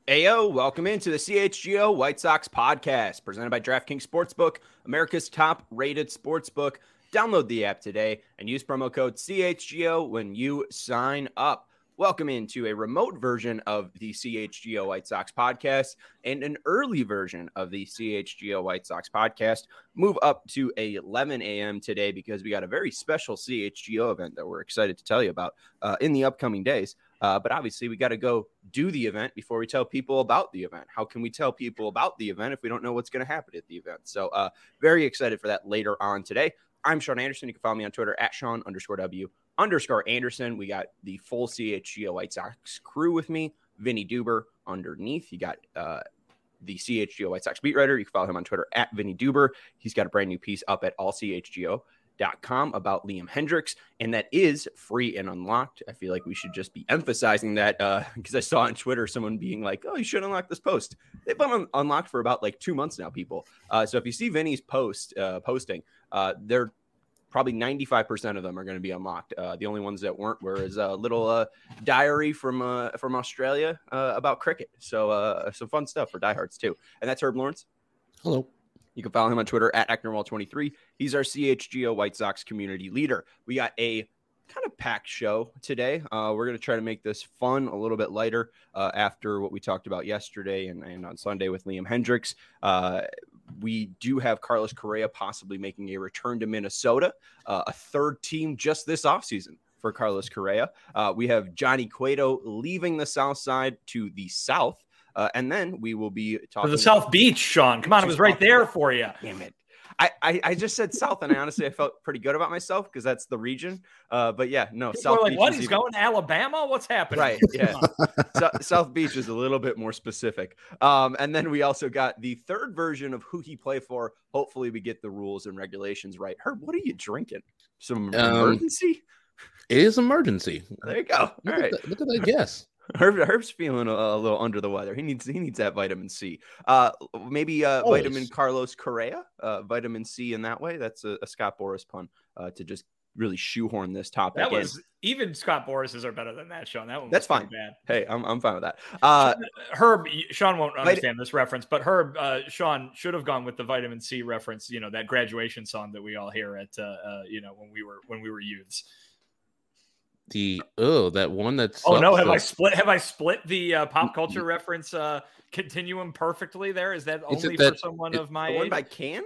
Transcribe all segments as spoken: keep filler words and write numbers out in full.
Ayo, welcome into the C H G O White Sox podcast presented by DraftKings Sportsbook, America's top-rated sportsbook. Download the app today and use promo code C H G O when you sign up. Welcome into a remote version of the C H G O White Sox podcast and an early version of the C H G O White Sox podcast. Move up to eleven a.m. today because we got a very special C H G O event that we're excited to tell you about uh, in the upcoming days. Uh, but obviously, we got to go do the event before we tell people about the event. How can we tell people about the event if we don't know what's going to happen at the event? So uh, very excited for that later on today. I'm Sean Anderson. You can follow me on Twitter at Sean underscore W underscore Anderson. We got the full C H G O White Sox crew with me. Vinny Duber underneath. You got uh, the C H G O White Sox beat writer. You can follow him on Twitter at Vinny Duber. He's got a brand new piece up at all c h g o dot com about Liam Hendriks, and that is free and unlocked. I feel like we should just be emphasizing that uh, because I saw on Twitter someone being like, oh, you should unlock this post. They've been un- unlocked for about like two months now, people. Uh, so if you see Vinny's post uh, posting, uh, they're probably ninety-five percent of them are going to be unlocked. Uh, the only ones that weren't were his uh, little uh, diary from uh, from Australia uh, about cricket. So uh, some fun stuff for diehards too. And that's Herb Lawrence. Hello. You can follow him on Twitter at Ecknerwall twenty-three. He's our C H G O White Sox community leader. We got a kind of packed show today. Uh, we're going to try to make this fun, a little bit lighter uh, after what we talked about yesterday and, and on Sunday with Liam Hendriks. Uh, we do have Carlos Correa possibly making a return to Minnesota, uh, a third team just this offseason for Carlos Correa. Uh, we have Johnny Cueto leaving the South Side to the South. Uh, and then we will be talking to the South Beach, Sean. Come on, it was right there for you. Damn it. I, I, I just said South, and I honestly I felt pretty good about myself because that's the region. Uh, but yeah, no, People South are like, Beach. what? Is He's even... going to Alabama? What's happening? Right. Yeah. so, South Beach is a little bit more specific. Um, and then we also got the third version of who he play for. Hopefully, we get the rules and regulations right. Herb, what are you drinking? Some Um, emergency? It is emergency. There you go. All Look, right. at that, look at that guess. Herb, Herb's feeling a, a little under the weather. He needs he needs that vitamin C. Uh, maybe uh, Always. vitamin Carlos Correa, uh, vitamin C in that way. That's a, a Scott Boras pun uh, to just really shoehorn this topic That in. was even Scott Boris's are better than that, Sean. That one was That's fine. bad. Hey, I'm I'm fine with that. Uh, Herb, Sean won't understand this reference, but Herb, uh, Sean should have gone with the vitamin C reference. You know, that graduation song that we all hear at uh, uh, you know when we were when we were youths. The oh, that one that's Oh no, have I split? Have I split the uh, pop culture reference uh, continuum perfectly? There is that Is it only that- for someone it- of my the one age? by Can?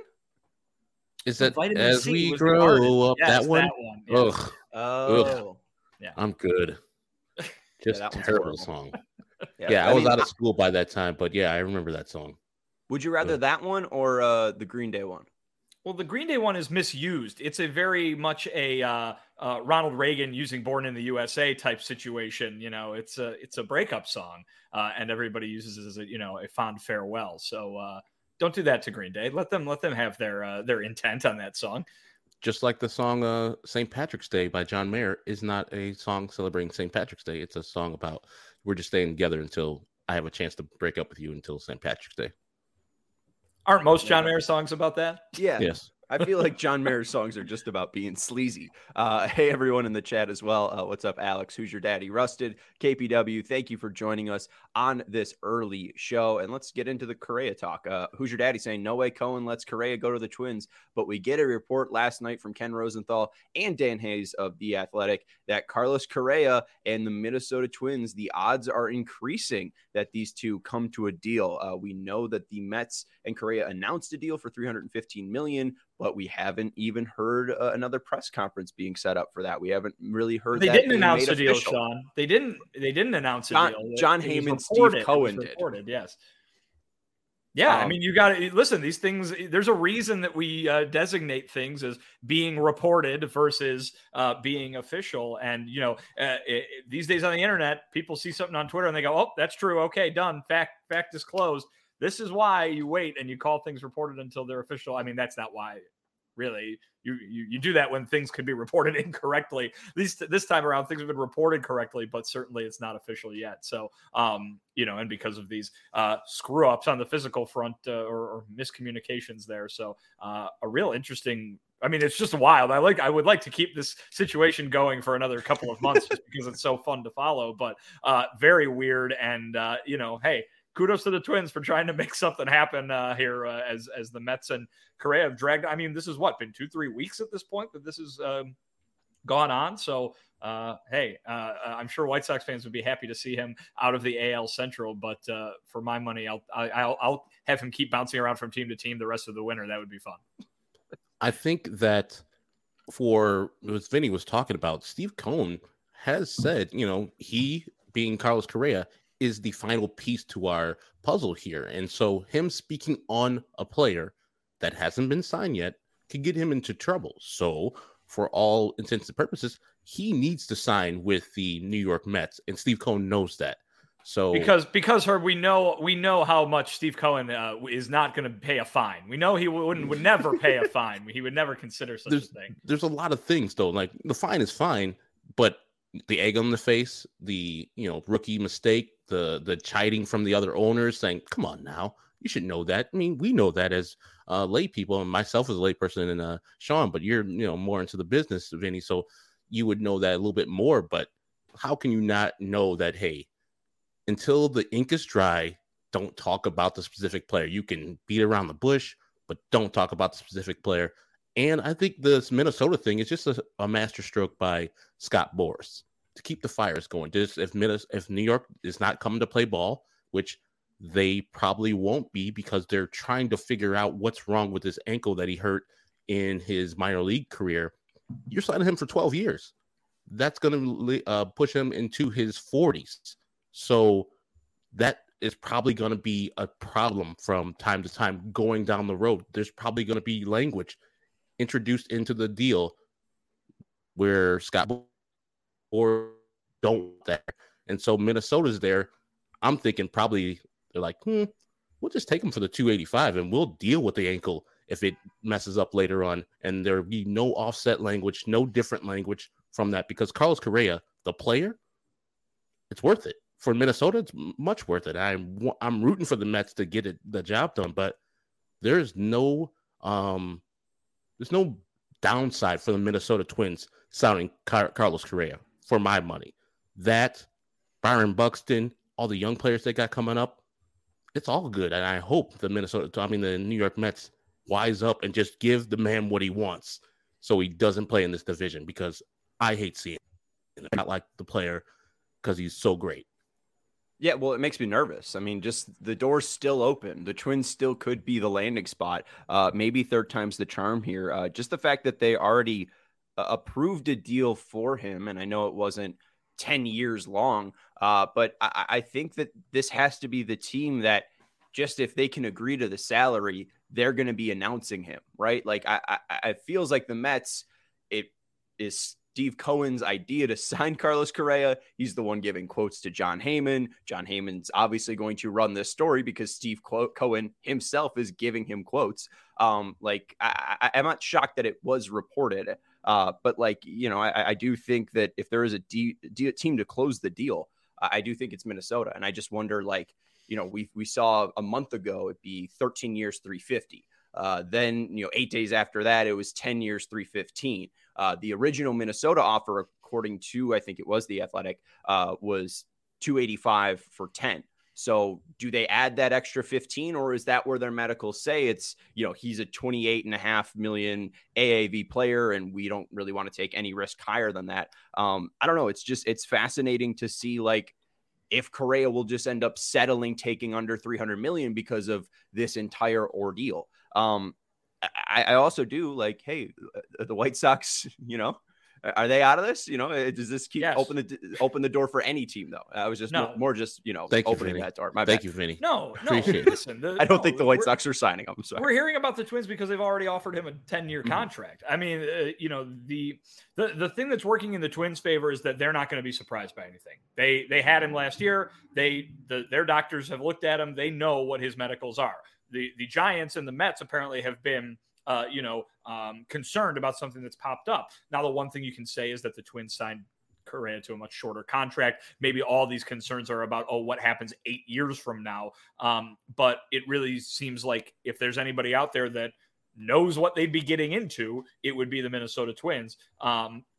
is that Vitamin as C we was the artist. grow up? Yes, that one. That one. yes. Ugh, Oh, Yeah. I'm good. Just that one's terrible horrible. song. yeah. Yeah, I, was mean, out of school by that time, but yeah, I remember that song. Would you rather Ugh. that one or uh, the Green Day one? Well, the Green Day one is misused. It's a very much a uh, uh, Ronald Reagan using "Born in the U S A" type situation. You know, it's a it's a breakup song, uh, and everybody uses it as a you know a fond farewell. So uh, don't do that to Green Day. Let them let them have their uh, their intent on that song. Just like the song uh, Saint Patrick's Day by John Mayer is not a song celebrating Saint Patrick's Day. It's a song about we're just staying together until I have a chance to break up with you until Saint Patrick's Day. Aren't most John Mayer songs about that? Yeah. Yes. I feel like John Mayer's songs are just about being sleazy. Uh, hey, everyone in the chat as well. Uh, what's up, Alex? Who's your daddy? Rusted, K P W. Thank you for joining us on this early show. And let's get into the Correa talk. Uh, who's your daddy saying, no way Cohen lets Correa go to the Twins. But we get a report last night from Ken Rosenthal and Dan Hayes of The Athletic that Carlos Correa and the Minnesota Twins, the odds are increasing that these two come to a deal. Uh, we know that the Mets and Correa announced a deal for three hundred fifteen million dollars. But we haven't even heard uh, another press conference being set up for that. We haven't really heard. They that didn't being announce made a deal, official. Sean. They didn't. They didn't announce a John- deal. John It was Heyman, Steve reported. It was Cohen did. reported, yes. Yeah, Um, I mean, you got to listen. These things. There's a reason that we uh, designate things as being reported versus uh, being official. And you know, uh, it, these days on the internet, people see something on Twitter and they go, "Oh, that's true. Okay, done. Fact, fact disclosed." This is why you wait and you call things reported until they're official. I mean, that's not why. Really, you, you you do that when things could be reported incorrectly. At least this time around, things have been reported correctly, but certainly it's not official yet. So, um, you know, and because of these uh, screw ups on the physical front uh, or, or miscommunications there, so uh, a real interesting. I mean, it's just wild. I like. I would like to keep this situation going for another couple of months just because it's so fun to follow. But uh, very weird, and uh, you know, hey. kudos to the Twins for trying to make something happen uh, here uh, as as the Mets and Correa have dragged. I mean, this is what, been two, three weeks at this point that this is um, gone on. So, uh, hey, uh, I'm sure White Sox fans would be happy to see him out of the A L Central. But uh, for my money, I'll, I'll I'll have him keep bouncing around from team to team the rest of the winter. That would be fun. I think that for what Vinny was talking about, Steve Cohen has said, you know, he being Carlos Correa is the final piece to our puzzle here. And so him speaking on a player that hasn't been signed yet could get him into trouble. So for all intents and purposes, he needs to sign with the New York Mets, and Steve Cohen knows that. So because because her we know we know how much Steve Cohen uh, is not going to pay a fine. We know he wouldn't would never pay a fine. He would never consider such there's, a thing. There's a lot of things though. Like the fine is fine, but the egg on the face, the you know rookie mistake, the the chiding from the other owners saying, "Come on now, you should know that." I mean, we know that as uh, lay people, and myself as a lay person, and uh, Sean, but you're you know more into the business, Vinny, so you would know that a little bit more. But how can you not know that? Hey, until the ink is dry, don't talk about the specific player. You can beat around the bush, but don't talk about the specific player. And I think this Minnesota thing is just a, a master stroke by Scott Boras to keep the fires going. Just if if New York is not coming to play ball, which they probably won't be because they're trying to figure out what's wrong with his ankle that he hurt in his minor league career, you're signing him for twelve years. That's going to uh, push him into his forties. So that is probably going to be a problem from time to time going down the road. There's probably going to be language introduced into the deal where Scott or don't there. And so Minnesota's there. I'm thinking probably they're like, hmm, we'll just take him for the two eighty-five and we'll deal with the ankle if it messes up later on. And there'll be no offset language, no different language from that, because Carlos Correa, the player, it's worth it. For Minnesota, it's much worth it. I'm I'm rooting for the Mets to get it the job done, but there's no um there's no downside for the Minnesota Twins signing Car- Carlos Correa for my money. That Byron Buxton, all the young players they got coming up, it's all good. And I hope the Minnesota, I mean the New York Mets, wise up and just give the man what he wants, so he doesn't play in this division. Because I hate seeing it. I not like the player because he's so great. Yeah, well, it makes me nervous. I mean, just the door's still open. The Twins still could be the landing spot. Uh, maybe third time's the charm here. Uh, just the fact that they already uh, approved a deal for him, and I know it wasn't ten years long, uh, but I, I think that this has to be the team that just if they can agree to the salary, they're going to be announcing him, right? Like, I, I, it feels like the Mets, it is Steve Cohen's idea to sign Carlos Correa. He's the one giving quotes to John Heyman. John Heyman's obviously going to run this story because Steve Cohen himself is giving him quotes. Um, like, I, I, I'm not shocked that it was reported, uh, but like, you know, I, I do think that if there is a D, D, team to close the deal, I do think it's Minnesota. And I just wonder, like, you know, we we saw a month ago it'd be thirteen years, three fifty. Uh, then, you know, eight days after that, it was ten years, three fifteen. Uh, the original Minnesota offer, according to, I think it was The Athletic, uh, was two eighty-five for ten. So do they add that extra fifteen, or is that where their medicals say it's, you know, he's a twenty-eight and a half million A A V player and we don't really want to take any risk higher than that? Um, I don't know. It's just, it's fascinating to see, like, if Correa will just end up settling, taking under three hundred million because of this entire ordeal. Um, I, I also do like, hey, the White Sox, you know, are they out of this? You know, does this keep yes. open the open the door for any team though? I was just no. more, more just, you know, Thank opening you, that door. My Thank bad. you, Vinny. No, no. Appreciate listen, the, I don't no, think the White Sox are signing him. I'm sorry. We're hearing about the Twins because they've already offered him a ten-year Mm-hmm. contract. I mean, uh, you know, the, the the thing that's working in the Twins' favor is that they're not going to be surprised by anything. They they had him last year. They the, their doctors have looked at him. They know what his medicals are. The the Giants and the Mets apparently have been uh, you know um, concerned about something that's popped up. Now, the one thing you can say is that the Twins signed Correa to a much shorter contract. Maybe all these concerns are about, oh, what happens eight years from now? Um, but it really seems like if there's anybody out there that knows what they'd be getting into, it would be the Minnesota Twins. Um,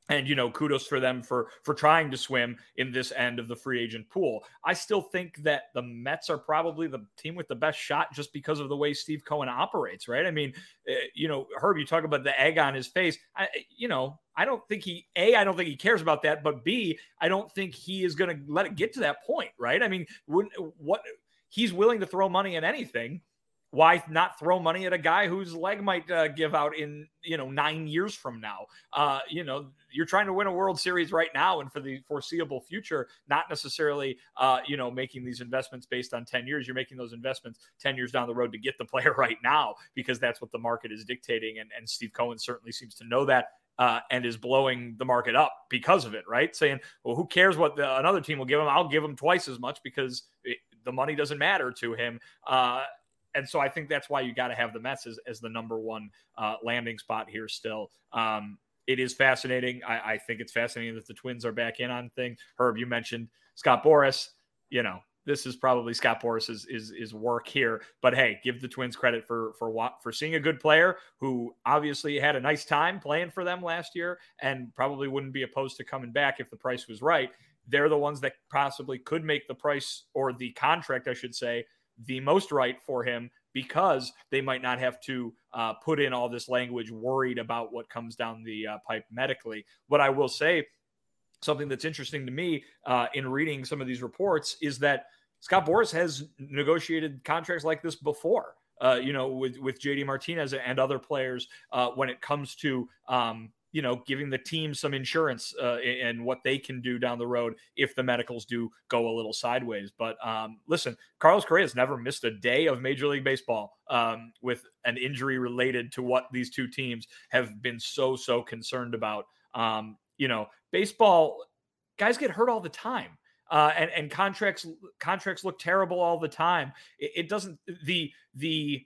And, you know, kudos for them for for trying to swim in this end of the free agent pool. I still think that the Mets are probably the team with the best shot just because of the way Steve Cohen operates, right? I mean, uh, you know, Herb, you talk about the egg on his face. I, you know, I don't think he, A, I don't think he cares about that, but B, I don't think he is going to let it get to that point, right? I mean, when, what he's willing to throw money at anything. Why not throw money at a guy whose leg might uh, give out in, you know, nine years from now? Uh, you know, you're trying to win a World Series right now and for the foreseeable future, not necessarily, uh, you know, making these investments based on ten years. You're making those investments ten years down the road to get the player right now because that's what the market is dictating. And, and Steve Cohen certainly seems to know that. Uh, and is blowing the market up because of it, right? Saying, well, who cares what the, another team will give him? I'll give him twice as much because it, the money doesn't matter to him. Uh, And so I think that's why you got to have the Mets as, as the number one uh, landing spot here still. Um, it is fascinating. I, I think it's fascinating that the Twins are back in on things. Herb, you mentioned Scott Boras. You know, this is probably Scott Boras's is, is work here. But hey, give the Twins credit for for what for seeing a good player who obviously had a nice time playing for them last year and probably wouldn't be opposed to coming back if the price was right. They're the ones that possibly could make the price or the contract, I should say, the most right for him because they might not have to uh, put in all this language worried about what comes down the uh, pipe medically. What I will say, something that's interesting to me uh, in reading some of these reports is that Scott Boras has negotiated contracts like this before, uh, you know, with, with J D Martinez and other players uh, when it comes to, um, you know, giving the team some insurance uh, and what they can do down the road if the medicals do go a little sideways. But um, listen, Carlos Correa has never missed a day of Major League Baseball um, with an injury related to what these two teams have been so, so concerned about. Um, you know, baseball guys get hurt all the time. Uh, and, and contracts contracts look terrible all the time. It, it doesn't the the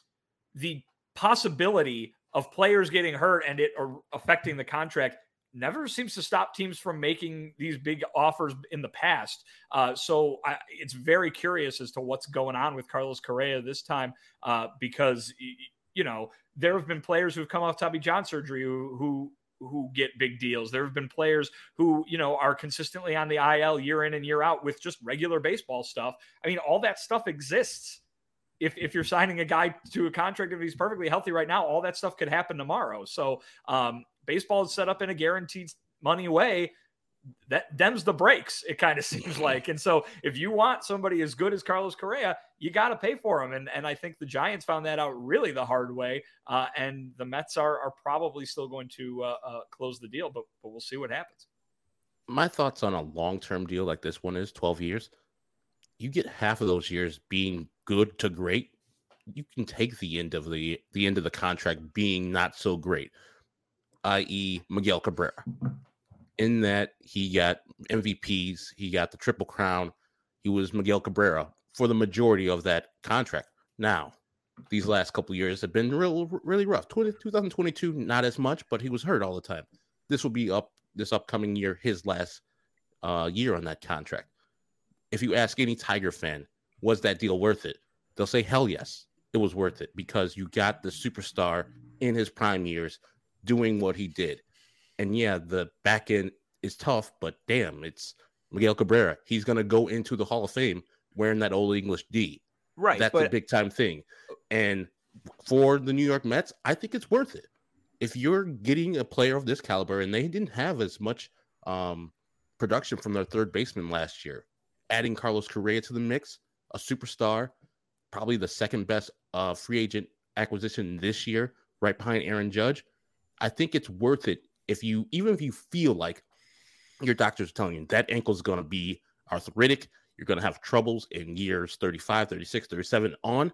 the possibility of players getting hurt and it or affecting the contract never seems to stop teams from making these big offers in the past. Uh, so I, it's very curious as to what's going on with Carlos Correa this time uh, because, you know, there have been players who've come off Tommy John surgery who, who who get big deals. There have been players who, you know, are consistently on the I L year in and year out with just regular baseball stuff. I mean, all that stuff exists. If if you're signing a guy to a contract, if he's perfectly healthy right now, all that stuff could happen tomorrow. So um, baseball is set up in a guaranteed money way that dems the brakes, it kind of seems like. And so if you want somebody as good as Carlos Correa, you got to pay for him. And, and I think the Giants found that out really the hard way. Uh, and the Mets are, are probably still going to uh, uh, close the deal, but, but we'll see what happens. My thoughts on a long-term deal like this one is twelve years. You get half of those years being good to great. You can take the end of the the end of the contract being not so great, that is. Miguel Cabrera. In that he got M V Ps, he got the Triple Crown. He was Miguel Cabrera for the majority of that contract. Now, these last couple of years have been real, really rough. twenty, twenty twenty-two, not as much, but he was hurt all the time. This will be up this upcoming year, his last uh, year on that contract. If you ask any Tiger fan, was that deal worth it? They'll say, hell yes, it was worth it because you got the superstar in his prime years doing what he did. And yeah, the back end is tough, but damn, it's Miguel Cabrera. He's going to go into the Hall of Fame wearing that Old English D. Right. That's but... a big time thing. And for the New York Mets, I think it's worth it. If you're getting a player of this caliber, and they didn't have as much um, production from their third baseman last year, adding Carlos Correa to the mix, a superstar, probably the second best uh, free agent acquisition this year, right behind Aaron Judge, I think it's worth it. If you, even if you feel like your doctors are telling you that ankle is going to be arthritic, you're going to have troubles in years thirty-five, thirty-six, thirty-seven on,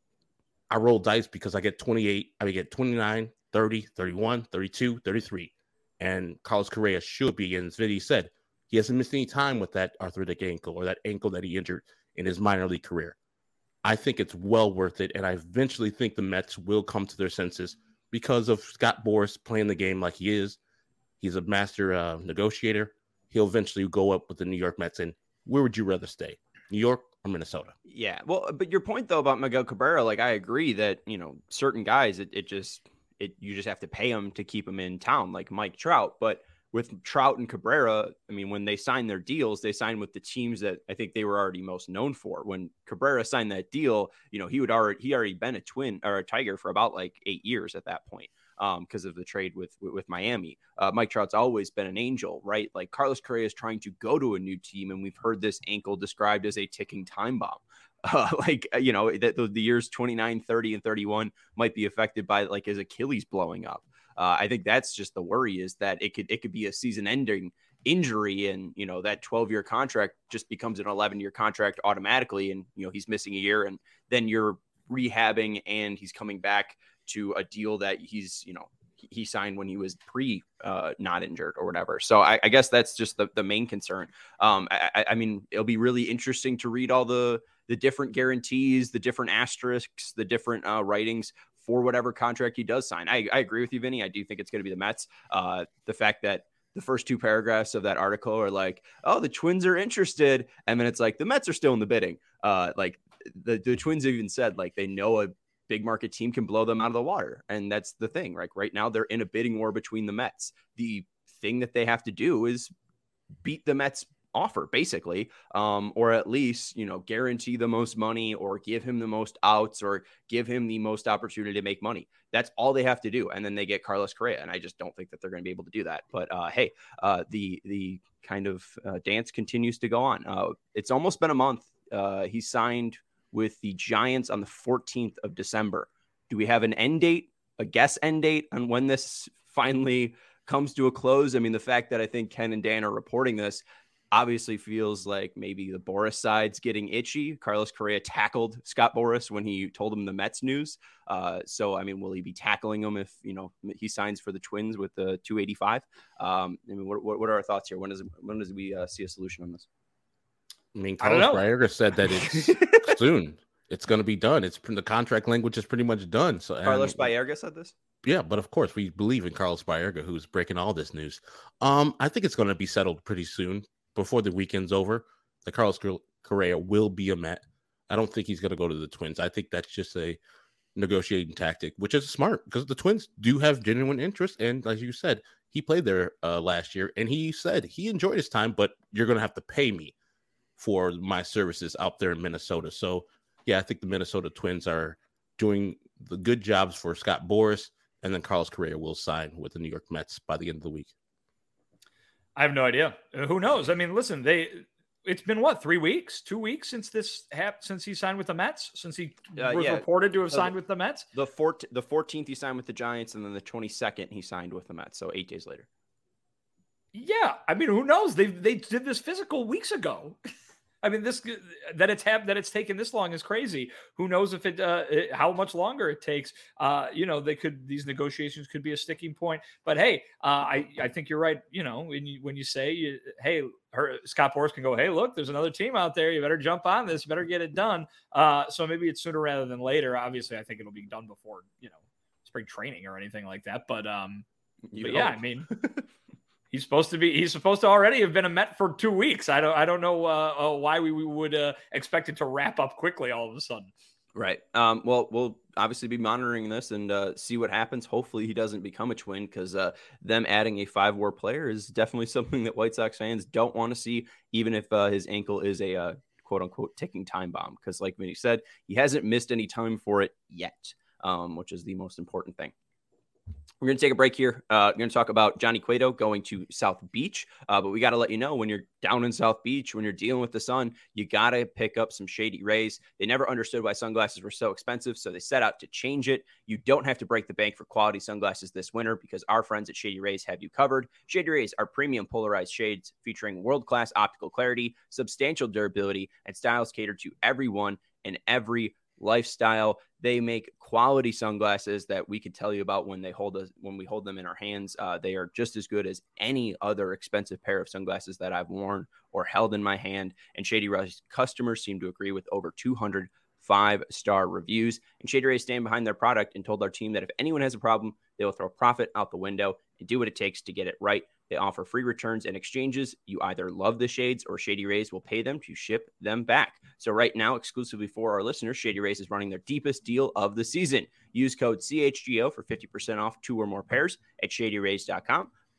I roll dice because I get twenty-eight, I get twenty-nine, thirty, thirty-one, thirty-two, thirty-three. And Carlos Correa should be, and as Vinny said, he hasn't missed any time with that arthritic ankle or that ankle that he injured in his minor league career. I think it's well worth it, and I eventually think the Mets will come to their senses because of Scott Boras playing the game like he is. He's a master uh, negotiator. He'll eventually go up with the New York Mets. And where would you rather stay, New York or Minnesota? Yeah, well, but your point, though, about Miguel Cabrera, like, I agree that, you know, certain guys, it, it just, it you just have to pay them to keep them in town, like Mike Trout. But with Trout and Cabrera, I mean, when they signed their deals, they signed with the teams that I think they were already most known for. When Cabrera signed that deal, you know, he would already he already been a Twin or a Tiger for about like eight years at that point, um, because of the trade with with, with Miami. Uh, Mike Trout's always been an angel, right? Like Carlos Correa is trying to go to a new team, and we've heard this ankle described as a ticking time bomb. Uh, like, you know, that the, the years twenty-nine, thirty, and thirty-one might be affected by like his Achilles blowing up. Uh, I think that's just the worry, is that it could it could be a season-ending injury, and you know that twelve-year contract just becomes an eleven-year contract automatically, and you know he's missing a year, and then you're rehabbing, and he's coming back to a deal that he's you know he, he signed when he was pre uh, not injured or whatever. So I, I guess that's just the, the main concern. Um, I, I mean, it'll be really interesting to read all the the different guarantees, the different asterisks, the different uh, writings for whatever contract he does sign. I, I agree with you, Vinny. I do think it's going to be the Mets. Uh, the fact that the first two paragraphs of that article are like, oh, the Twins are interested. And then it's like, the Mets are still in the bidding. Uh, like the, the Twins even said, like, they know a big market team can blow them out of the water. And that's the thing. Like right now they're in a bidding war between the Mets. The thing that they have to do is beat the Mets offer, basically, um, or at least, you know, guarantee the most money, or give him the most outs, or give him the most opportunity to make money. That's all they have to do. And then they get Carlos Correa. And I just don't think that they're going to be able to do that. But uh, hey, uh, the the kind of uh, dance continues to go on. Uh, it's almost been a month. Uh, he signed with the Giants on the fourteenth of December. Do we have an end date, a guess end date on when this finally comes to a close? I mean, the fact that I think Ken and Dan are reporting this obviously feels like maybe the Boras side's getting itchy. Carlos Correa tackled Scott Boras when he told him the Mets news. Uh, so, I mean, will he be tackling him if, you know, he signs for the Twins with the two eighty-five? Um, I mean, what, what are our thoughts here? When does, when does we uh, see a solution on this? I mean, Carlos Baerga said that it's soon. It's going to be done. It's the contract language is pretty much done. So Carlos Baerga said this? Yeah, but of course we believe in Carlos Baerga, who's breaking all this news. Um, I think it's going to be settled pretty soon. Before the weekend's over, the Carlos Correa will be a Met. I don't think he's going to go to the Twins. I think that's just a negotiating tactic, which is smart because the Twins do have genuine interest. And as you said, he played there uh, last year, and he said he enjoyed his time, but you're going to have to pay me for my services out there in Minnesota. So, yeah, I think the Minnesota Twins are doing the good jobs for Scott Boras, and then Carlos Correa will sign with the New York Mets by the end of the week. I have no idea. Who knows? I mean, listen, they it's been what, three weeks, two weeks since this happened, since he signed with the Mets, since he uh, was yeah. reported to have signed uh, with the Mets. The fourt- the fourteenth he signed with the Giants, and then the twenty-second he signed with the Mets. So eight days later. Yeah, I mean, who knows? They they did this physical weeks ago. I mean, this that it's have that it's taken this long is crazy. Who knows if it, uh, it how much longer it takes? Uh, you know, they could these negotiations could be a sticking point. But hey, uh, I I think you're right. You know, when you when you say, you, hey, her, Scott Boras can go, hey, look, there's another team out there. You better jump on this. You better get it done. Uh, so maybe it's sooner rather than later. Obviously, I think it'll be done before you know spring training or anything like that. But um, but yeah, I mean. He's supposed to be. He's supposed to already have been a Met for two weeks. I don't. I don't know uh, uh, why we, we would uh, expect it to wrap up quickly all of a sudden. Right. Um, well, we'll obviously be monitoring this and uh, see what happens. Hopefully, he doesn't become a Twin, because uh, them adding a five-war player is definitely something that White Sox fans don't want to see, even if uh, his ankle is a uh, quote-unquote ticking time bomb. Because, like Vinny said, he hasn't missed any time for it yet, um, which is the most important thing. We're going to take a break here. Uh, we're going to talk about Johnny Cueto going to South Beach. Uh, but we got to let you know, when you're down in South Beach, when you're dealing with the sun, you got to pick up some Shady Rays. They never understood why sunglasses were so expensive, so they set out to change it. You don't have to break the bank for quality sunglasses this winter, because our friends at Shady Rays have you covered. Shady Rays are premium polarized shades featuring world-class optical clarity, substantial durability, and styles catered to everyone and every lifestyle. They make quality sunglasses that we could tell you about when they hold us when we hold them in our hands. Uh, they are just as good as any other expensive pair of sunglasses that I've worn or held in my hand. And Shady Rays customers seem to agree, with over two hundred five-star reviews. And Shady Rays stand behind their product and told our team that if anyone has a problem, they will throw profit out the window and do what it takes to get it right. They offer free returns and exchanges. You either love the shades, or Shady Rays will pay them to ship them back. So right now, exclusively for our listeners, Shady Rays is running their deepest deal of the season. Use code C H G O for fifty percent off two or more pairs at shady rays dot com.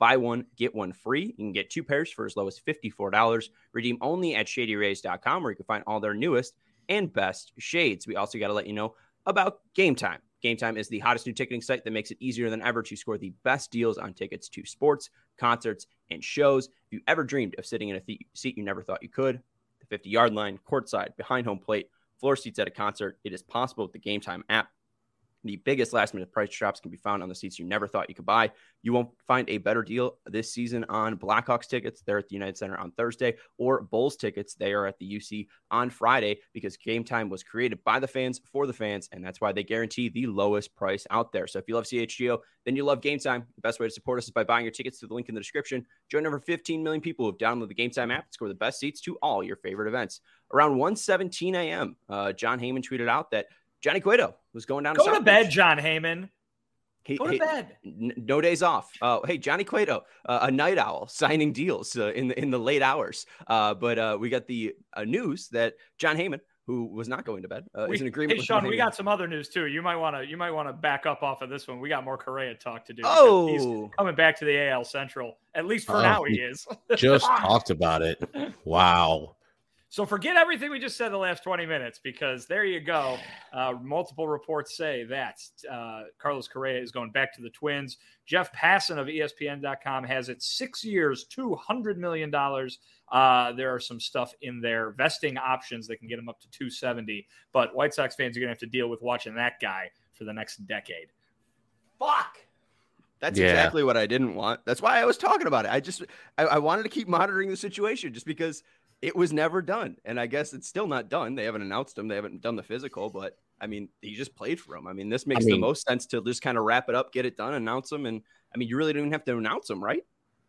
Buy one, get one free. You can get two pairs for as low as fifty-four dollars. Redeem only at shady rays dot com, where you can find all their newest and best shades. We also got to let you know about Game Time. Game Time is the hottest new ticketing site that makes it easier than ever to score the best deals on tickets to sports, concerts, and shows. If you ever dreamed of sitting in a th- seat you never thought you could, the fifty-yard line, courtside, behind home plate, floor seats at a concert, it is possible with the Game Time app. The biggest last-minute price drops can be found on the seats you never thought you could buy. You won't find a better deal this season on Blackhawks tickets. They're at the United Center on Thursday, or Bulls tickets. They are at the U C on Friday, because Game Time was created by the fans for the fans, and that's why they guarantee the lowest price out there. So if you love C H G O, then you love Game Time. The best way to support us is by buying your tickets through the link in the description. Join over fifteen million people who have downloaded the Game Time app and score the best seats to all your favorite events. Around one seventeen a.m., uh, John Heyman tweeted out that Johnny Cueto was going down. Go to, to bed, John Heyman. He, Go to he, bed. N- no days off. Uh, hey, Johnny Cueto, uh, a night owl, signing deals uh, in the in the late hours. Uh, but uh, we got the uh, news that John Heyman, who was not going to bed, uh, we, is in agreement. Hey, with Sean, Heyman. we got some other news too. You might want to you might want to back up off of this one. We got more Correa talk to do. Oh, he's coming back to the A L Central. At least for Oh, now, he is. Just talked about it. Wow. So forget everything we just said the last twenty minutes, because there you go. Uh, multiple reports say that uh, Carlos Correa is going back to the Twins. Jeff Passan of E S P N dot com has it six years, two hundred million dollars. Uh, there are some stuff in there, vesting options that can get him up to two seventy. But White Sox fans are going to have to deal with watching that guy for the next decade. Fuck. That's Yeah. exactly what I didn't want. That's why I was talking about it. I just I, I wanted to keep monitoring the situation, just because it was never done. And I guess it's still not done. They haven't announced him. They haven't done the physical, but I mean, he just played for him. I mean, this makes I mean, the most sense to just kind of wrap it up, get it done, announce him. And I mean, you really don't even have to announce him, right?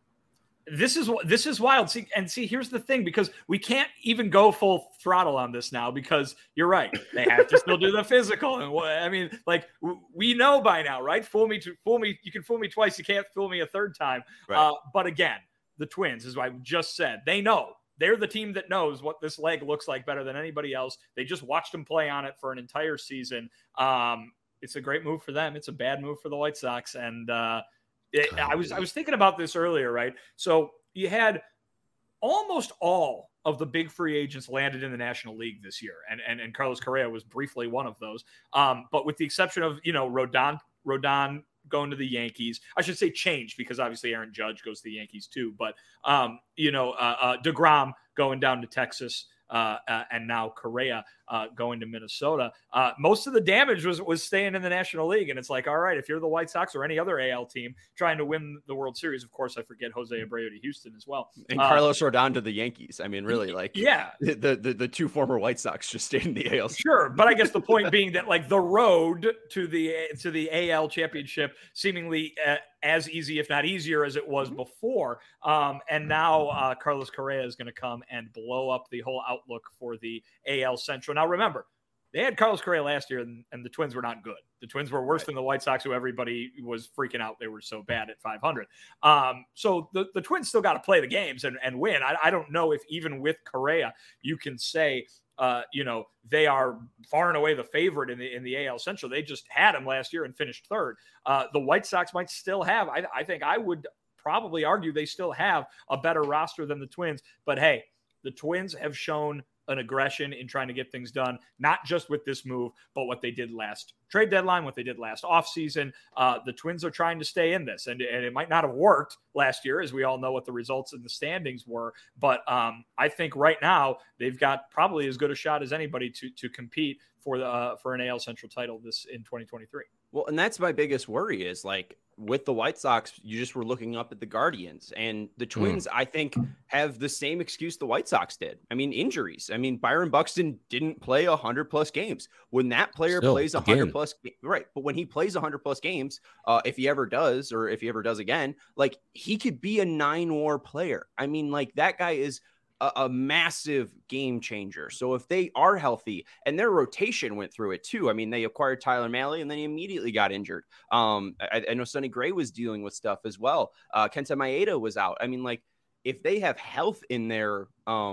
This is this is wild. See, and see, here's the thing, because we can't even go full throttle on this now, because you're right. They have to still do the physical. And what, I mean, like w- we know by now, right? Fool me to fool me. You can fool me twice. You can't fool me a third time. Right. Uh, but again, the Twins, as I just said, they know. They're the team that knows what this leg looks like better than anybody else. They just watched him play on it for an entire season. Um, it's a great move for them. It's a bad move for the White Sox. And uh, it, I was I was thinking about this earlier, right? So you had almost all of the big free agents landed in the National League this year, and and, and Carlos Correa was briefly one of those. Um, but with the exception of you know Rodon Rodon. going to the Yankees. I should say changed, because obviously Aaron Judge goes to the Yankees too. But, um, you know, uh, uh, DeGrom going down to Texas, uh, uh, and now Correa uh, going to Minnesota. Uh, most of the damage was was staying in the National League. And it's like, all right, if you're the White Sox or any other A L team trying to win the World Series, of course, I forget Jose Abreu to Houston as well. And uh, Carlos Rodon to the Yankees. I mean, really, like, yeah, the, the, the two former White Sox just stayed in the A L. Sure, but I guess the point being that like the road to the to the A L championship seemingly uh, as easy, if not easier, as it was before. Um, and now uh, Carlos Correa is going to come and blow up the whole outlook for the A L Central. Now, remember, they had Carlos Correa last year, and, and the Twins were not good. The Twins were worse right. than the White Sox, who everybody was freaking out. They were so bad at five hundred. Um, so the, the Twins still got to play the games and, and win. I, I don't know if even with Correa, you can say, uh, you know, they are far and away the favorite in the in the A L Central. They just had him last year and finished third. Uh, the White Sox might still have, I, I think I would probably argue they still have a better roster than the Twins. But hey, the Twins have shown an aggression in trying to get things done, not just with this move, but what they did last trade deadline, what they did last offseason. Uh, the Twins are trying to stay in this, and, and it might not have worked last year, as we all know what the results in the standings were. But um, I think right now they've got probably as good a shot as anybody to to compete for the uh, for an A L Central title this in twenty twenty-three. Well, and that's my biggest worry is like with the White Sox, you just were looking up at the Guardians, and the Twins, mm. I think, have the same excuse the White Sox did. I mean, injuries. I mean, Byron Buxton didn't play one hundred plus games. When that player Still, plays one hundred plus, right, but when he plays one hundred plus games, uh, if he ever does, or if he ever does again, like he could be a nine war player. I mean, like that guy is a, a massive game changer. So if they are healthy, and their rotation went through it too. I mean, they acquired Tyler Mahle and then he immediately got injured. Um, I, I know Sonny Gray was dealing with stuff as well. Uh, Kenta Maeda was out. I mean, like if they have health in their, um,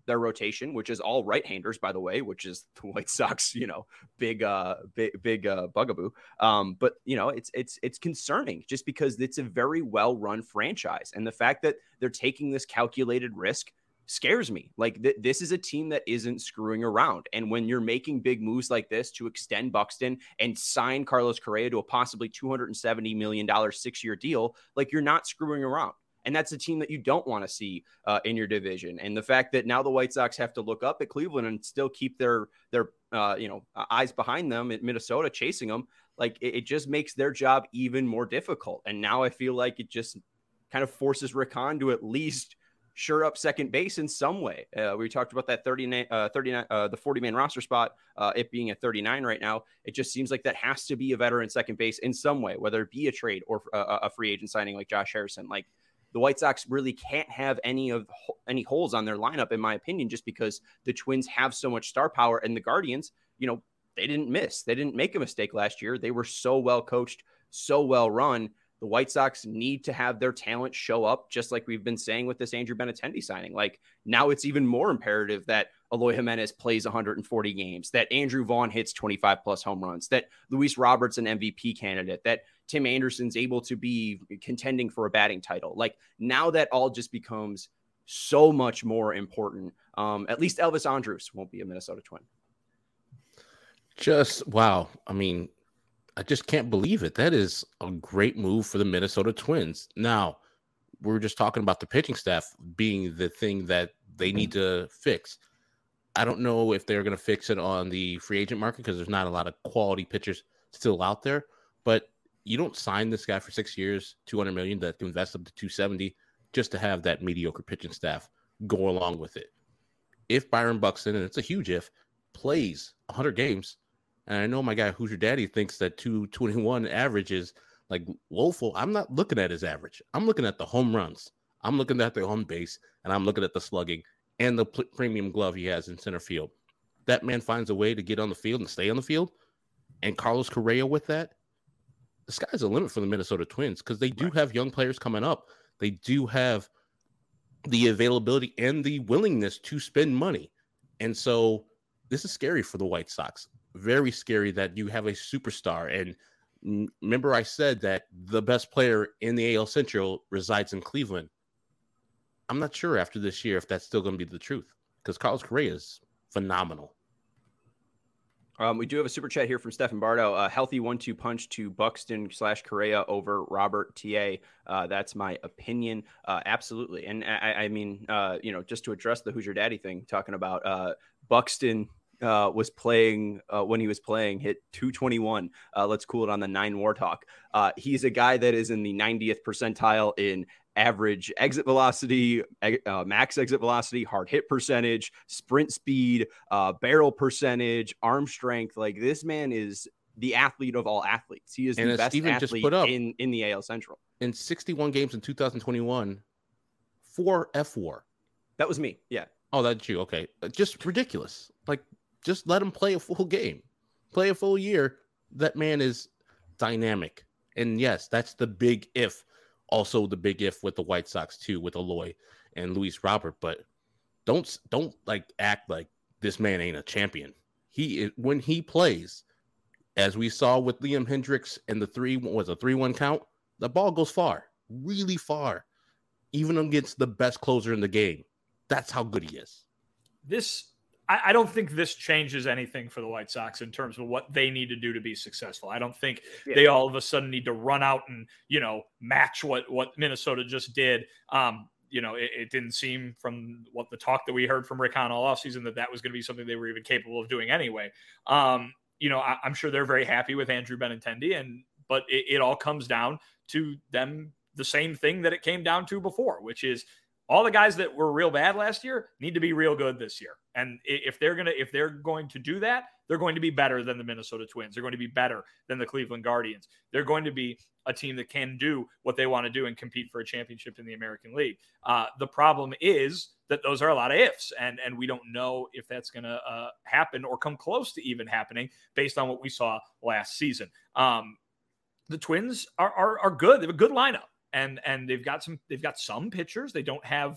their rotation, which is all right-handers, by the way, which is the White Sox, you know, big, uh, big, big uh, bugaboo. Um, but you know, it's it's it's concerning just because it's a very well-run franchise, and the fact that they're taking this calculated risk scares me. Like th- this is a team that isn't screwing around, and when you're making big moves like this to extend Buxton and sign Carlos Correa to a possibly two hundred seventy million dollars six-year deal, like you're not screwing around. And that's a team that you don't want to see uh, in your division. And the fact that now the White Sox have to look up at Cleveland and still keep their their uh, you know eyes behind them at Minnesota chasing them, like it, it just makes their job even more difficult. And now I feel like it just kind of forces Rick Hahn to at least sure up second base in some way. Uh, we talked about that thirty-nine, uh, thirty-nine, uh, the forty man roster spot, uh, it being at thirty-nine right now. It just seems like that has to be a veteran second base in some way, whether it be a trade or a, a free agent signing like Josh Harrison. Like, the White Sox really can't have any of any holes on their lineup, in my opinion, just because the Twins have so much star power, and the Guardians, you know, they didn't miss. They didn't make a mistake last year. They were so well coached, so well run. The White Sox need to have their talent show up, just like we've been saying with this Andrew Benintendi signing. Like now it's even more imperative that Eloy Jimenez plays one hundred forty games, that Andrew Vaughn hits twenty-five plus home runs, that Luis Roberts an M V P candidate, that Tim Anderson's able to be contending for a batting title. Like now that all just becomes so much more important. Um, at least Elvis Andrus won't be a Minnesota Twin. Just wow. I mean, I just can't believe it. That is a great move for the Minnesota Twins. Now, we're just talking about the pitching staff being the thing that they need to fix. I don't know if they're going to fix it on the free agent market because there's not a lot of quality pitchers still out there. But you don't sign this guy for six years, two hundred million dollars that can invest up to two hundred seventy just to have that mediocre pitching staff go along with it. If Byron Buxton, and it's a huge if, plays one hundred games, and I know my guy Hoosier Daddy thinks that two twenty-one average is like woeful. I'm not looking at his average. I'm looking at the home runs. I'm looking at the home base, and I'm looking at the slugging and the pl- premium glove he has in center field. That man finds a way to get on the field and stay on the field. And Carlos Correa with that, the sky's the limit for the Minnesota Twins because they do right. have young players coming up. They do have the availability and the willingness to spend money. And so this is scary for the White Sox. Very scary that you have a superstar. And remember I said that the best player in the A L Central resides in Cleveland. I'm not sure after this year if that's still going to be the truth because Carlos Correa is phenomenal. Um, we do have a super chat here from Stephen Bardo. A healthy one two punch to Buxton slash Correa over Robert T A. Uh, that's my opinion. Uh, absolutely. And I, I mean, uh, you know, just to address the Hoosier Daddy thing, talking about uh, Buxton uh, was playing uh, when he was playing hit two twenty-one. Uh, let's cool it on the nine war talk. Uh, he's a guy that is in the ninetieth percentile in average exit velocity, uh, max exit velocity, hard hit percentage, sprint speed, uh, barrel percentage, arm strength. Like this man is the athlete of all athletes. He is and the best Steven athlete just put up, in, in the A L Central. In sixty-one games in two thousand twenty-one, four F four. That was me. Yeah. Oh, that's you. Okay. Just ridiculous. Like, just let him play a full game. Play a full year. That man is dynamic. And yes, that's the big if. Also the big if with the White Sox too, with Eloy and Luis Robert. But don't don't like act like this man ain't a champion. He when he plays, as we saw with Liam Hendriks and the three was a three one count, the ball goes far, really far, even against the best closer in the game. That's how good he is. This I don't think this changes anything for the White Sox in terms of what they need to do to be successful. I don't think yeah. they all of a sudden need to run out and, you know, match what, what Minnesota just did. Um, you know, it, it didn't seem from what the talk that we heard from Rick Hahn all offseason that that was going to be something they were even capable of doing anyway. Um, you know, I, I'm sure they're very happy with Andrew Benintendi, and but it, it all comes down to them the same thing that it came down to before, which is all the guys that were real bad last year need to be real good this year. And if they're going to, if they're going to do that, they're going to be better than the Minnesota Twins. They're going to be better than the Cleveland Guardians. They're going to be a team that can do what they want to do and compete for a championship in the American League. Uh, the problem is that those are a lot of ifs, and, and we don't know if that's going to uh, happen or come close to even happening based on what we saw last season. Um, the Twins are, are, are good. They have a good lineup. And and they've got some they've got some pitchers. They don't have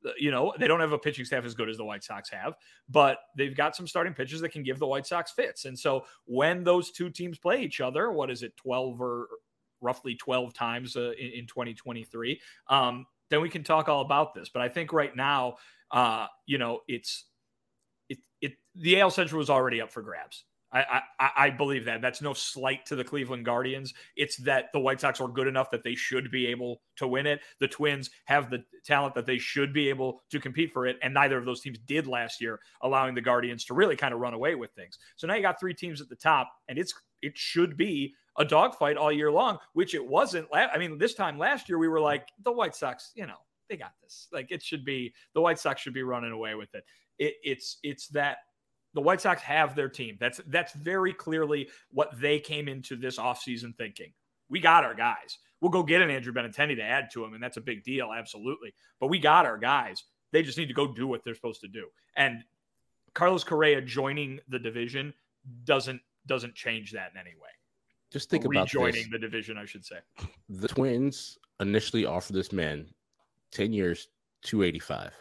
You know, they don't have a pitching staff as good as the White Sox have, but they've got some starting pitchers that can give the White Sox fits. And so when those two teams play each other, what is it, twelve or roughly twelve times uh, in, in twenty twenty-three, um, then we can talk all about this. But I think right now, uh, you know, it's it, it the A L Central was already up for grabs. I, I I believe that. That's no slight to the Cleveland Guardians. It's that the White Sox are good enough that they should be able to win it. The Twins have the talent that they should be able to compete for it, and neither of those teams did last year, allowing the Guardians to really kind of run away with things. So now you got three teams at the top, and it's it should be a dogfight all year long, which it wasn't. I mean, this time last year we were like, the White Sox, you know, they got this. Like it should be the White Sox should be running away with it. it it's it's that. The White Sox have their team. That's that's very clearly what they came into this offseason thinking. We got our guys. We'll go get an Andrew Benintendi to add to him, and that's a big deal, absolutely. But we got our guys. They just need to go do what they're supposed to do. And Carlos Correa joining the division doesn't doesn't change that in any way. Just think or about rejoining this. the division, I should say. The Twins initially offered this man ten years, two eighty-five.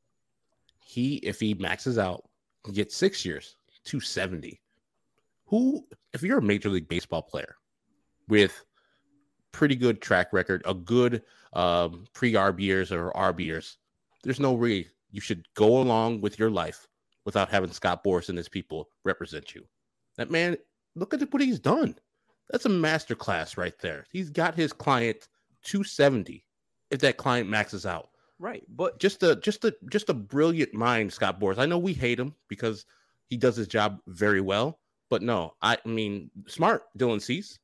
He, if he maxes out, get six years, two seventy. Who, if you're a Major League Baseball player with pretty good track record, a good um, pre-arb years or arb years, there's no way you should go along with your life without having Scott Boras and his people represent you. That man, look at what he's done. That's a masterclass right there. He's got his client two seventy if that client maxes out. Right, but just a just a just a brilliant mind, Scott Boras. I know we hate him because he does his job very well, but no, I mean, smart Dylan Cease.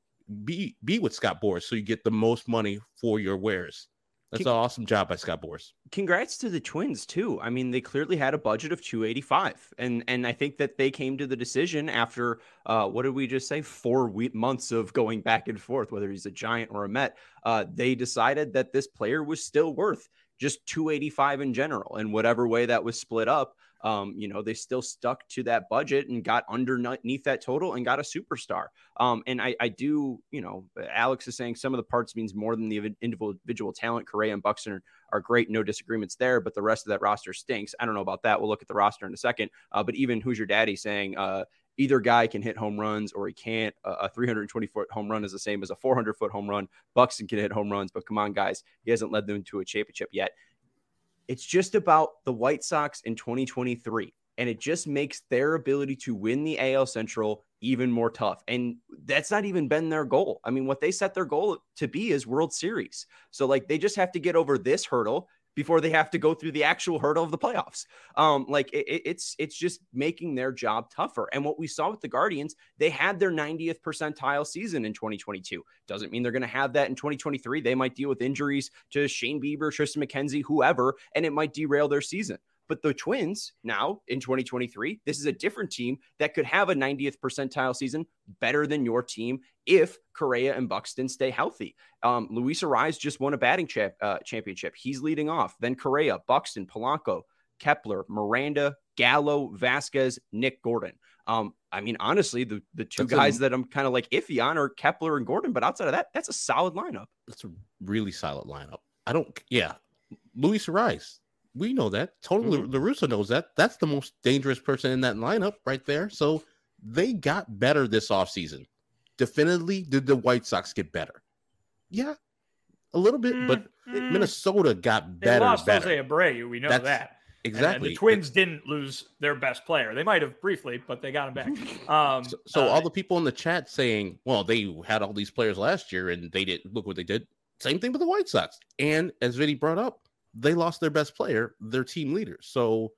Be be with Scott Boras so you get the most money for your wares. That's Con- an awesome job by Scott Boras. Congrats to the Twins too. I mean, they clearly had a budget of two eighty-five, and and I think that they came to the decision after uh, what did we just say? Four week, months of going back and forth, whether he's a Giant or a Met. Uh, they decided that this player was still worth just two eighty-five in general, and whatever way that was split up, um, you know, they still stuck to that budget and got underneath that total and got a superstar. Um, and I, I do, you know, Alex is saying some of the parts means more than the individual talent. Correa and Buxton are, are great, no disagreements there, but the rest of that roster stinks. I don't know about that. We'll look at the roster in a second. Uh, but even Who's Your Daddy saying, uh, either guy can hit home runs or he can't. Uh, a three hundred twenty foot home run is the same as a four hundred foot home run. Buxton can hit home runs, but come on, guys, he hasn't led them to a championship yet. It's just about the White Sox in twenty twenty-three, and it just makes their ability to win the A L Central even more tough. And that's not even been their goal. I mean, what they set their goal to be is World Series. So, like, they just have to get over this hurdle before they have to go through the actual hurdle of the playoffs. Um, like it, it's it's just making their job tougher. And what we saw with the Guardians, they had their ninetieth percentile season in twenty twenty-two. Doesn't mean they're going to have that in twenty twenty-three. They might deal with injuries to Shane Bieber, Tristan McKenzie, whoever, and it might derail their season. But the Twins now in twenty twenty-three, this is a different team that could have a ninetieth percentile season better than your team if Correa and Buxton stay healthy. Um, Luis Arraez just won a batting cha- uh, championship. He's leading off. Then Correa, Buxton, Polanco, Kepler, Miranda, Gallo, Vasquez, Nick Gordon. Um, I mean, honestly, the, the two that's guys a, that I'm kind of like iffy on are Kepler and Gordon. But outside of that, that's a solid lineup. That's a really solid lineup. I don't, yeah. Luis Arraez. We know that. Totally, mm-hmm. LaRusso knows that. That's the most dangerous person in that lineup right there. So they got better this offseason. Definitively, did the White Sox get better? Yeah, a little bit, mm-hmm. but Minnesota got better. They lost better. Jose Abreu. We know That's, that. Exactly. And the Twins it, didn't lose their best player. They might have briefly, but they got him back. Um, so so uh, all the people in the chat saying, well, they had all these players last year and they didn't look what they did. Same thing with the White Sox. And as Vinny brought up, they lost their best player, their team leader. So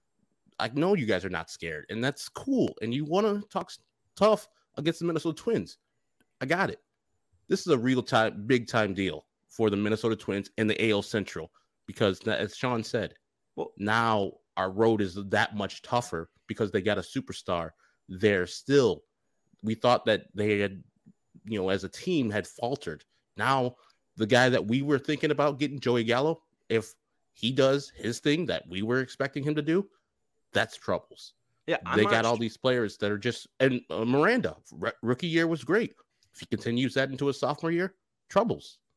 I know you guys are not scared, and that's cool. And you want to talk tough against the Minnesota Twins. I got it. This is a real time, big time deal for the Minnesota Twins and the A L Central because, as Sean said, well, now our road is that much tougher because they got a superstar there still. We thought that they had, you know, as a team had faltered. Now the guy that we were thinking about getting, Joey Gallo, if he does his thing that we were expecting him to do, that's troubles. Yeah, I'm they got not... all these players that are just, and uh, Miranda, r- rookie year was great. If he continues that into his sophomore year, troubles.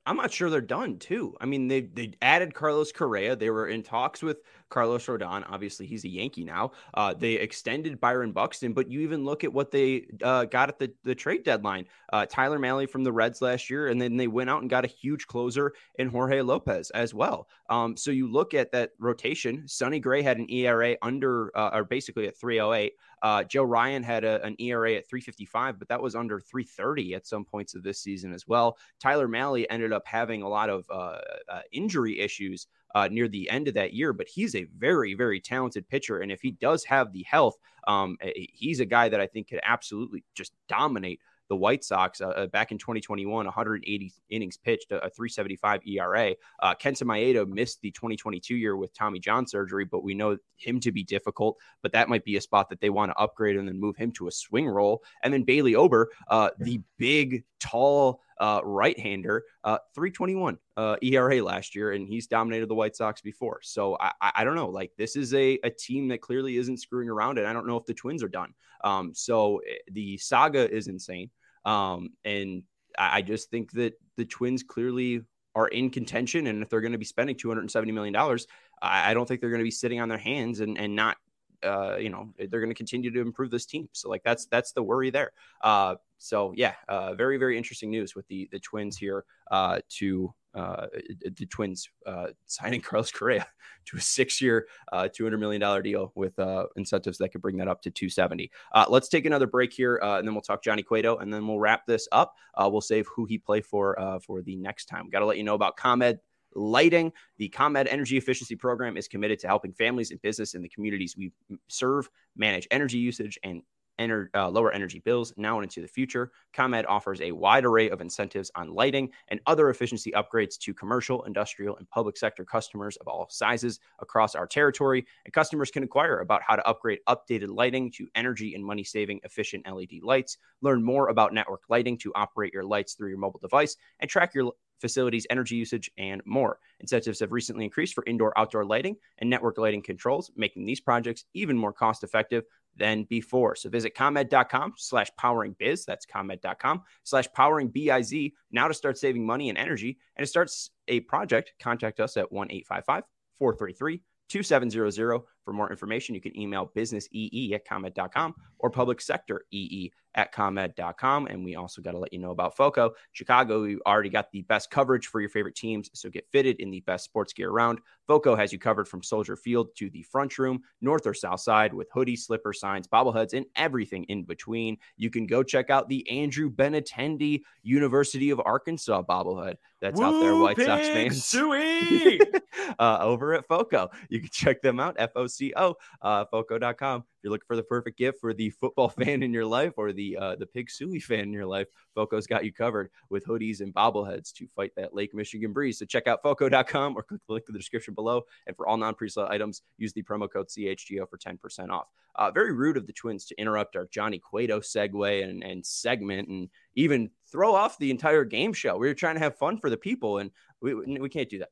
I'm not sure they're done too. I mean, they they added Carlos Correa. They were in talks with Carlos Rodon. Obviously, he's a Yankee now. Uh, they extended Byron Buxton, but you even look at what they uh, got at the, the trade deadline. Uh, Tyler Mahle from the Reds last year, and then they went out and got a huge closer in Jorge Lopez as well. Um, so you look at that rotation. Sonny Gray had an E R A under, uh, or basically at three oh eight. Uh, Joe Ryan had a, an E R A at three fifty-five, but that was under three thirty at some points of this season as well. Tyler Mahle ended up having a lot of uh, uh, injury issues uh, near the end of that year, but he's a very, very talented pitcher. And if he does have the health, um, he's a guy that I think could absolutely just dominate the White Sox. Uh, back in twenty twenty-one, one hundred eighty innings pitched, a, a three seventy-five E R A. Uh, Kenta Maeda missed the twenty twenty-two year with Tommy John surgery, but we know him to be difficult. But that might be a spot that they want to upgrade and then move him to a swing role. And then Bailey Ober, uh, the big, tall uh, right-hander, uh, three twenty-one uh, E R A last year, and he's dominated the White Sox before. So I, I, I don't know. Like, this is a, a team that clearly isn't screwing around, and I don't know if the Twins are done. Um, so the saga is insane. Um, and I just think that the Twins clearly are in contention. And if they're going to be spending two hundred seventy million dollars, I don't think they're going to be sitting on their hands and, and not, uh, you know, they're going to continue to improve this team. So like, that's, that's the worry there. Uh, so yeah, uh, very, very interesting news with the, the Twins here, uh, to, uh, the Twins, uh, signing Carlos Correa to a six-year, uh, two hundred million dollars deal with, uh, incentives that could bring that up to two seventy. Uh, let's take another break here, uh, and then we'll talk Johnny Cueto, and then we'll wrap this up. Uh, we'll save who he play for, uh, for the next time. Got to let you know about ComEd Lighting. The ComEd Energy Efficiency Program is committed to helping families and business in the communities we serve manage energy usage and Ener- uh, lower energy bills now and into the future. ComEd offers a wide array of incentives on lighting and other efficiency upgrades to commercial, industrial, and public sector customers of all sizes across our territory. And customers can inquire about how to upgrade updated lighting to energy and money-saving efficient L E D lights. Learn more about network lighting to operate your lights through your mobile device and track your facilities' energy usage, and more. Incentives have recently increased for indoor-outdoor lighting and network lighting controls, making these projects even more cost-effective than before. So visit ComEd.com slash powering biz. That's ComEd.com slash powering B I Z now to start saving money and energy. And to start a project, contact us at one eight five five, four three three, two seven zero zero. For more information, you can email businessee at ComEd dot com or public sector ee at ComEd dot com. And we also got to let you know about FOCO. Chicago, we already got the best coverage for your favorite teams, so get fitted in the best sports gear around. FOCO has you covered from Soldier Field to the front room, north or south side, with hoodies, slippers, signs, bobbleheads, and everything in between. You can go check out the Andrew Benintendi University of Arkansas bobblehead that's Woo, out there, White Pig Sox fans. Suey! uh, over at FOCO. You can check them out, F O C O, uh, FOCO dot com. If you're looking for the perfect gift for the football fan in your life or the uh, the Pig Suey fan in your life, FOCO's got you covered with hoodies and bobbleheads to fight that Lake Michigan breeze. So check out FOCO dot com or click the link in the description below. And for all non-presale items, use the promo code C H G O for ten percent off. Uh, very rude of the Twins to interrupt our Johnny Cueto segue and, and segment and even throw off the entire game show. We were trying to have fun for the people, and we we can't do that.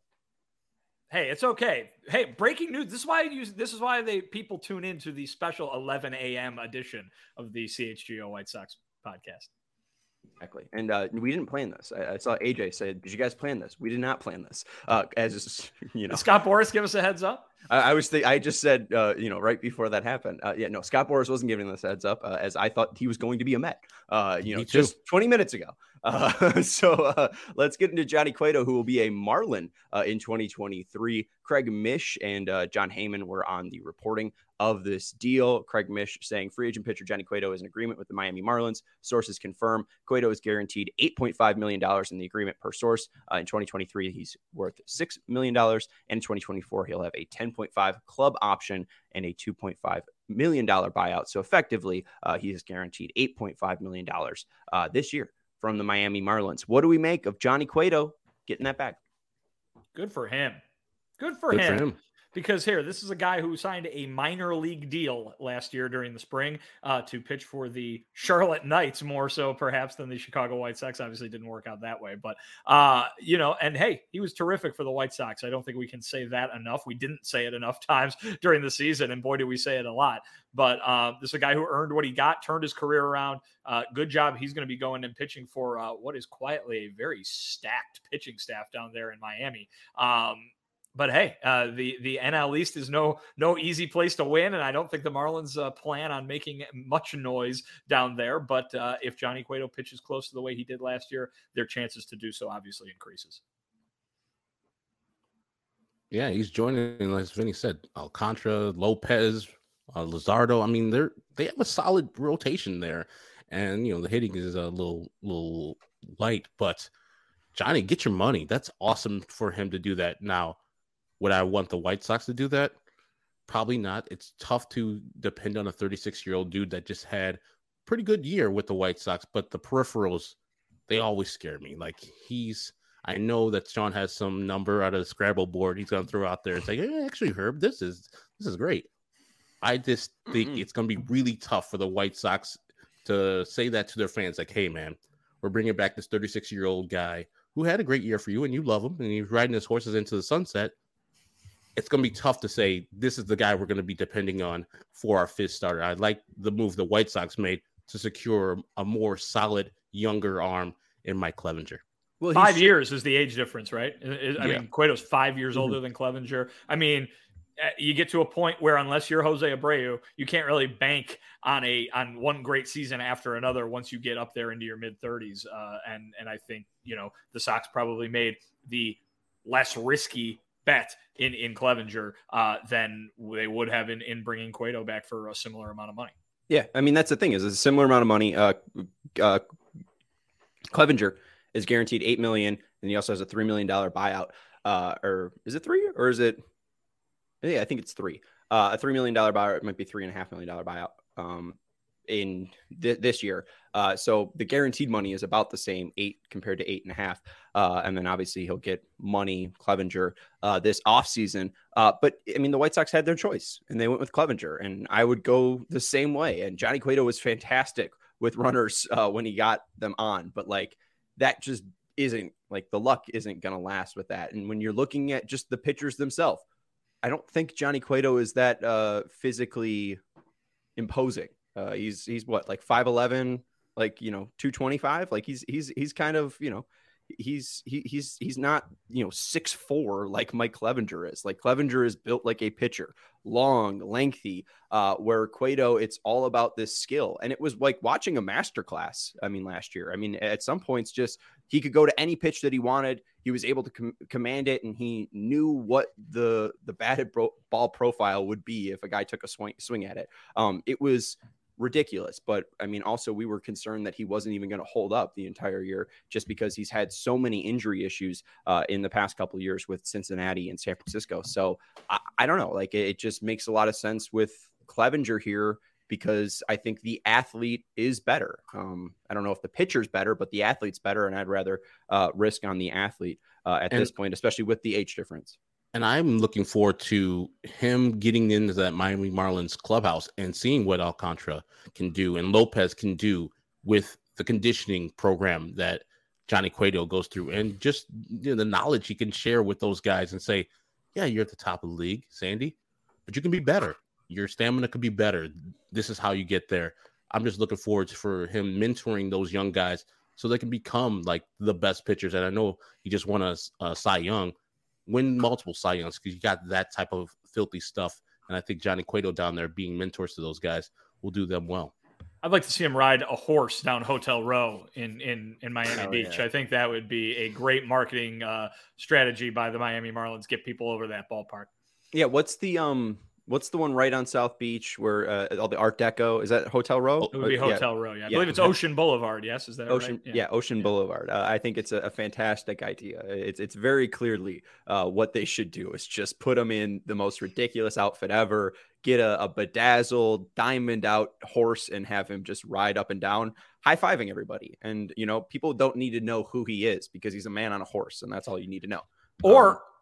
Hey, it's okay. Hey, breaking news. This is why I use. This is why they people tune into the special eleven a.m. edition of the C H G O White Sox podcast. Exactly. And uh, we didn't plan this. I, I saw A J say, did you guys plan this? We did not plan this. Uh, as you know, did Scott Boras give us a heads up? I, I was th- I just said, uh, you know, right before that happened. Uh, yeah, no, Scott Boras wasn't giving this heads up uh, as I thought he was going to be a Met, uh, you know, just twenty minutes ago. Uh, so uh, let's get into Johnny Cueto, who will be a Marlin uh, in twenty twenty-three. Craig Mish and uh, John Heyman were on the reporting of this deal. Craig Mish saying free agent pitcher Johnny Cueto is in agreement with the Miami Marlins. Sources confirm Cueto is guaranteed eight point five million dollars in the agreement per source. Uh, in twenty twenty-three, he's worth six million dollars. And in twenty twenty-four, he'll have a ten point five club option and a two point five million dollars buyout. So effectively, uh, he is guaranteed eight point five million dollars uh, this year from the Miami Marlins. What do we make of Johnny Cueto getting that back? Good for him. Good for Good him. For him. because here, this is a guy who signed a minor league deal last year during the spring uh, to pitch for the Charlotte Knights, more so perhaps than the Chicago White Sox. Obviously didn't work out that way, but uh, you know, and hey, he was terrific for the White Sox. I don't think we can say that enough. We didn't say it enough times during the season, and boy, do we say it a lot. But uh, this is a guy who earned what he got, turned his career around. Uh, good job. He's going to be going and pitching for uh, what is quietly a very stacked pitching staff down there in Miami. Um, but hey, uh, the the N L East is no no easy place to win, and I don't think the Marlins uh, plan on making much noise down there. But uh, if Johnny Cueto pitches close to the way he did last year, their chances to do so obviously increases. Yeah, he's joining, as Vinny said, Alcantara, Lopez, uh, Luzardo. I mean, they're they have a solid rotation there, and you know the hitting is a little little light. But Johnny, get your money. That's awesome for him to do that. Now, would I want the White Sox to do that? Probably not. It's tough to depend on a thirty-six-year-old dude that just had a pretty good year with the White Sox, but the peripherals, they always scare me. Like he's. I know that Sean has some number out of the Scrabble board he's going to throw out there and say, hey, actually, Herb, this is this is great. I just think mm-hmm. it's going to be really tough for the White Sox to say that to their fans. Like, hey, man, we're bringing back this thirty-six-year-old guy who had a great year for you and you love him and he's riding his horses into the sunset. It's going to be tough to say this is the guy we're going to be depending on for our fifth starter. I like the move the White Sox made to secure a more solid, younger arm in Mike Clevinger. Well, five years is the age difference, right? I yeah. mean, Cueto's five years mm-hmm. older than Clevinger. I mean, you get to a point where unless you're Jose Abreu, you can't really bank on a on one great season after another once you get up there into your mid thirties. Uh, and and I think you know the Sox probably made the less risky bet in in Clevinger uh, than they would have in in bringing Cueto back for a similar amount of money. Yeah, I mean that's the thing is it's a similar amount of money. Uh, uh, Clevinger is guaranteed eight million dollars, and he also has a three million dollars buyout. Uh, or is it three or is it? Yeah, I think it's three. Uh, a three million dollars buyout. It might be three and a half million dollar buyout um, in th- this year. Uh, so the guaranteed money is about the same, eight compared to eight and a half. Uh, and then obviously he'll get money, Clevinger, uh, this offseason. Uh, but I mean, the White Sox had their choice and they went with Clevinger, and I would go the same way. And Johnny Cueto was fantastic with runners uh, when he got them on, but like, that just isn't like the luck isn't going to last with that. And when you're looking at just the pitchers themselves, I don't think Johnny Cueto is that uh, physically imposing. Uh, he's, he's what, like five eleven, like, you know, two twenty-five. Like he's, he's, he's kind of, you know, he's, he, he's, he's not, you know, six four like Mike Clevinger is. Like Clevinger is built like a pitcher, long, lengthy, uh, where Cueto, it's all about this skill. And it was like watching a masterclass. I mean, last year, I mean, at some points, just he could go to any pitch that he wanted. He was able to com- command it, and he knew what the the batted bro- ball profile would be if a guy took a swing swing at it. Um, it was ridiculous. But I mean, also we were concerned that he wasn't even going to hold up the entire year just because he's had so many injury issues uh, in the past couple of years with Cincinnati and San Francisco. So I, I don't know, like it, it just makes a lot of sense with Clevinger here because I think the athlete is better. Um, I don't know if the pitcher's better, but the athlete's better. And I'd rather uh, risk on the athlete uh, at and, this point, especially with the age difference. And I'm looking forward to him getting into that Miami Marlins clubhouse and seeing what Alcantara can do and Lopez can do with the conditioning program that Johnny Cueto goes through, and just you know, the knowledge he can share with those guys and say, yeah, you're at the top of the league, Sandy, but you can be better. Your stamina could be better. This is how you get there. I'm just looking forward to, for him mentoring those young guys so they can become like the best pitchers. And I know he just won a, a Cy Young, win multiple Cy Youngs because you got that type of filthy stuff. And I think Johnny Cueto down there being mentors to those guys will do them well. I'd like to see him ride a horse down Hotel Row in in, in Miami oh, Beach. Yeah. I think that would be a great marketing uh, strategy by the Miami Marlins. Get people over that ballpark. Yeah. What's the um? What's the one right on South Beach where uh, all the Art Deco is that Hotel Row? It would be Hotel yeah. Row. Yeah, I yeah. believe it's Ocean Boulevard. Yes, is that Ocean? right? Yeah, yeah Ocean yeah. Boulevard. Uh, I think it's a, a fantastic idea. It's it's very clearly uh, what they should do is just put them in the most ridiculous outfit ever, get a, a bedazzled diamond out horse, and have him just ride up and down, high fiving everybody. And you know, people don't need to know who he is because he's a man on a horse, and that's all you need to know. Or. Um,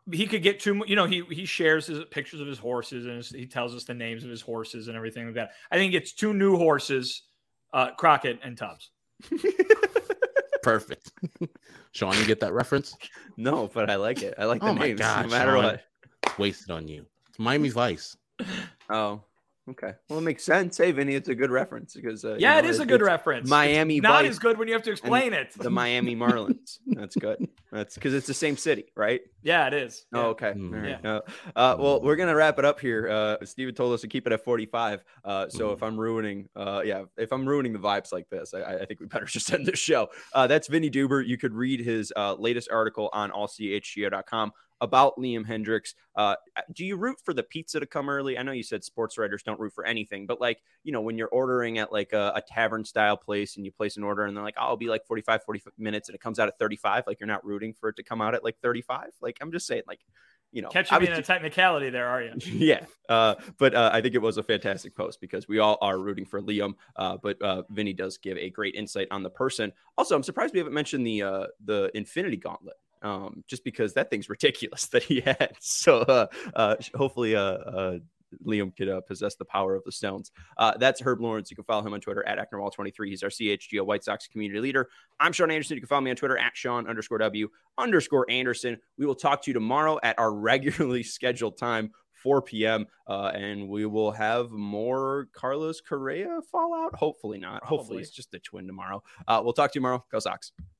he could get too, you know, he, he shares his pictures of his horses and his, he tells us the names of his horses and everything like that. I think it's two new horses, uh, Crockett and Tubbs. Perfect. Sean, you get that reference? No, but I like it. I like the Oh my names God, no matter Sean. what. Wasted on you. It's Miami Vice. Oh, okay. Well, it makes sense. Hey, Vinny, it's a good reference because uh, yeah, you know, it is it, a good it's reference. Miami it's not Vice as good when you have to explain it. The Miami Marlins. That's good. That's because it's the same city, right? Yeah, it is. Yeah. Oh, okay. Mm. All right. Yeah. Uh, uh, well, we're gonna wrap it up here. Uh, Steven told us to keep it at forty-five. Uh, so Mm. if I'm ruining, uh, yeah, if I'm ruining the vibes like this, I, I think we better just end this show. Uh, that's Vinny Duber. You could read his uh, latest article on all c h g o dot com about Liam Hendriks. Uh, do you root for the pizza to come early? I know you said sports writers don't root for anything, but like, you know, when you're ordering at like a, a tavern style place and you place an order and they're like, oh, I'll be like forty-five, forty minutes and it comes out at thirty-five. Like you're not rooting for it to come out at like thirty-five. Like, I'm just saying, like, you know, Catching me in obviously- a technicality there, are you? yeah. Uh, but uh, I think it was a fantastic post because we all are rooting for Liam. Uh, but uh, Vinny does give a great insight on the person. Also, I'm surprised we haven't mentioned the uh, the Infinity Gauntlet. Um, just because that thing's ridiculous that he had. So uh, uh, hopefully uh, uh, Liam could uh, possess the power of the stones. Uh, that's Herb Lawrence. You can follow him on Twitter at Acknerwall twenty-three. He's our C H G O White Sox community leader. I'm Sean Anderson. You can follow me on Twitter at Sean underscore W underscore Anderson. We will talk to you tomorrow at our regularly scheduled time, four p.m. Uh, and we will have more Carlos Correa fallout. Hopefully not. Probably. Hopefully it's just a twin tomorrow. Uh, we'll talk to you tomorrow. Go Sox.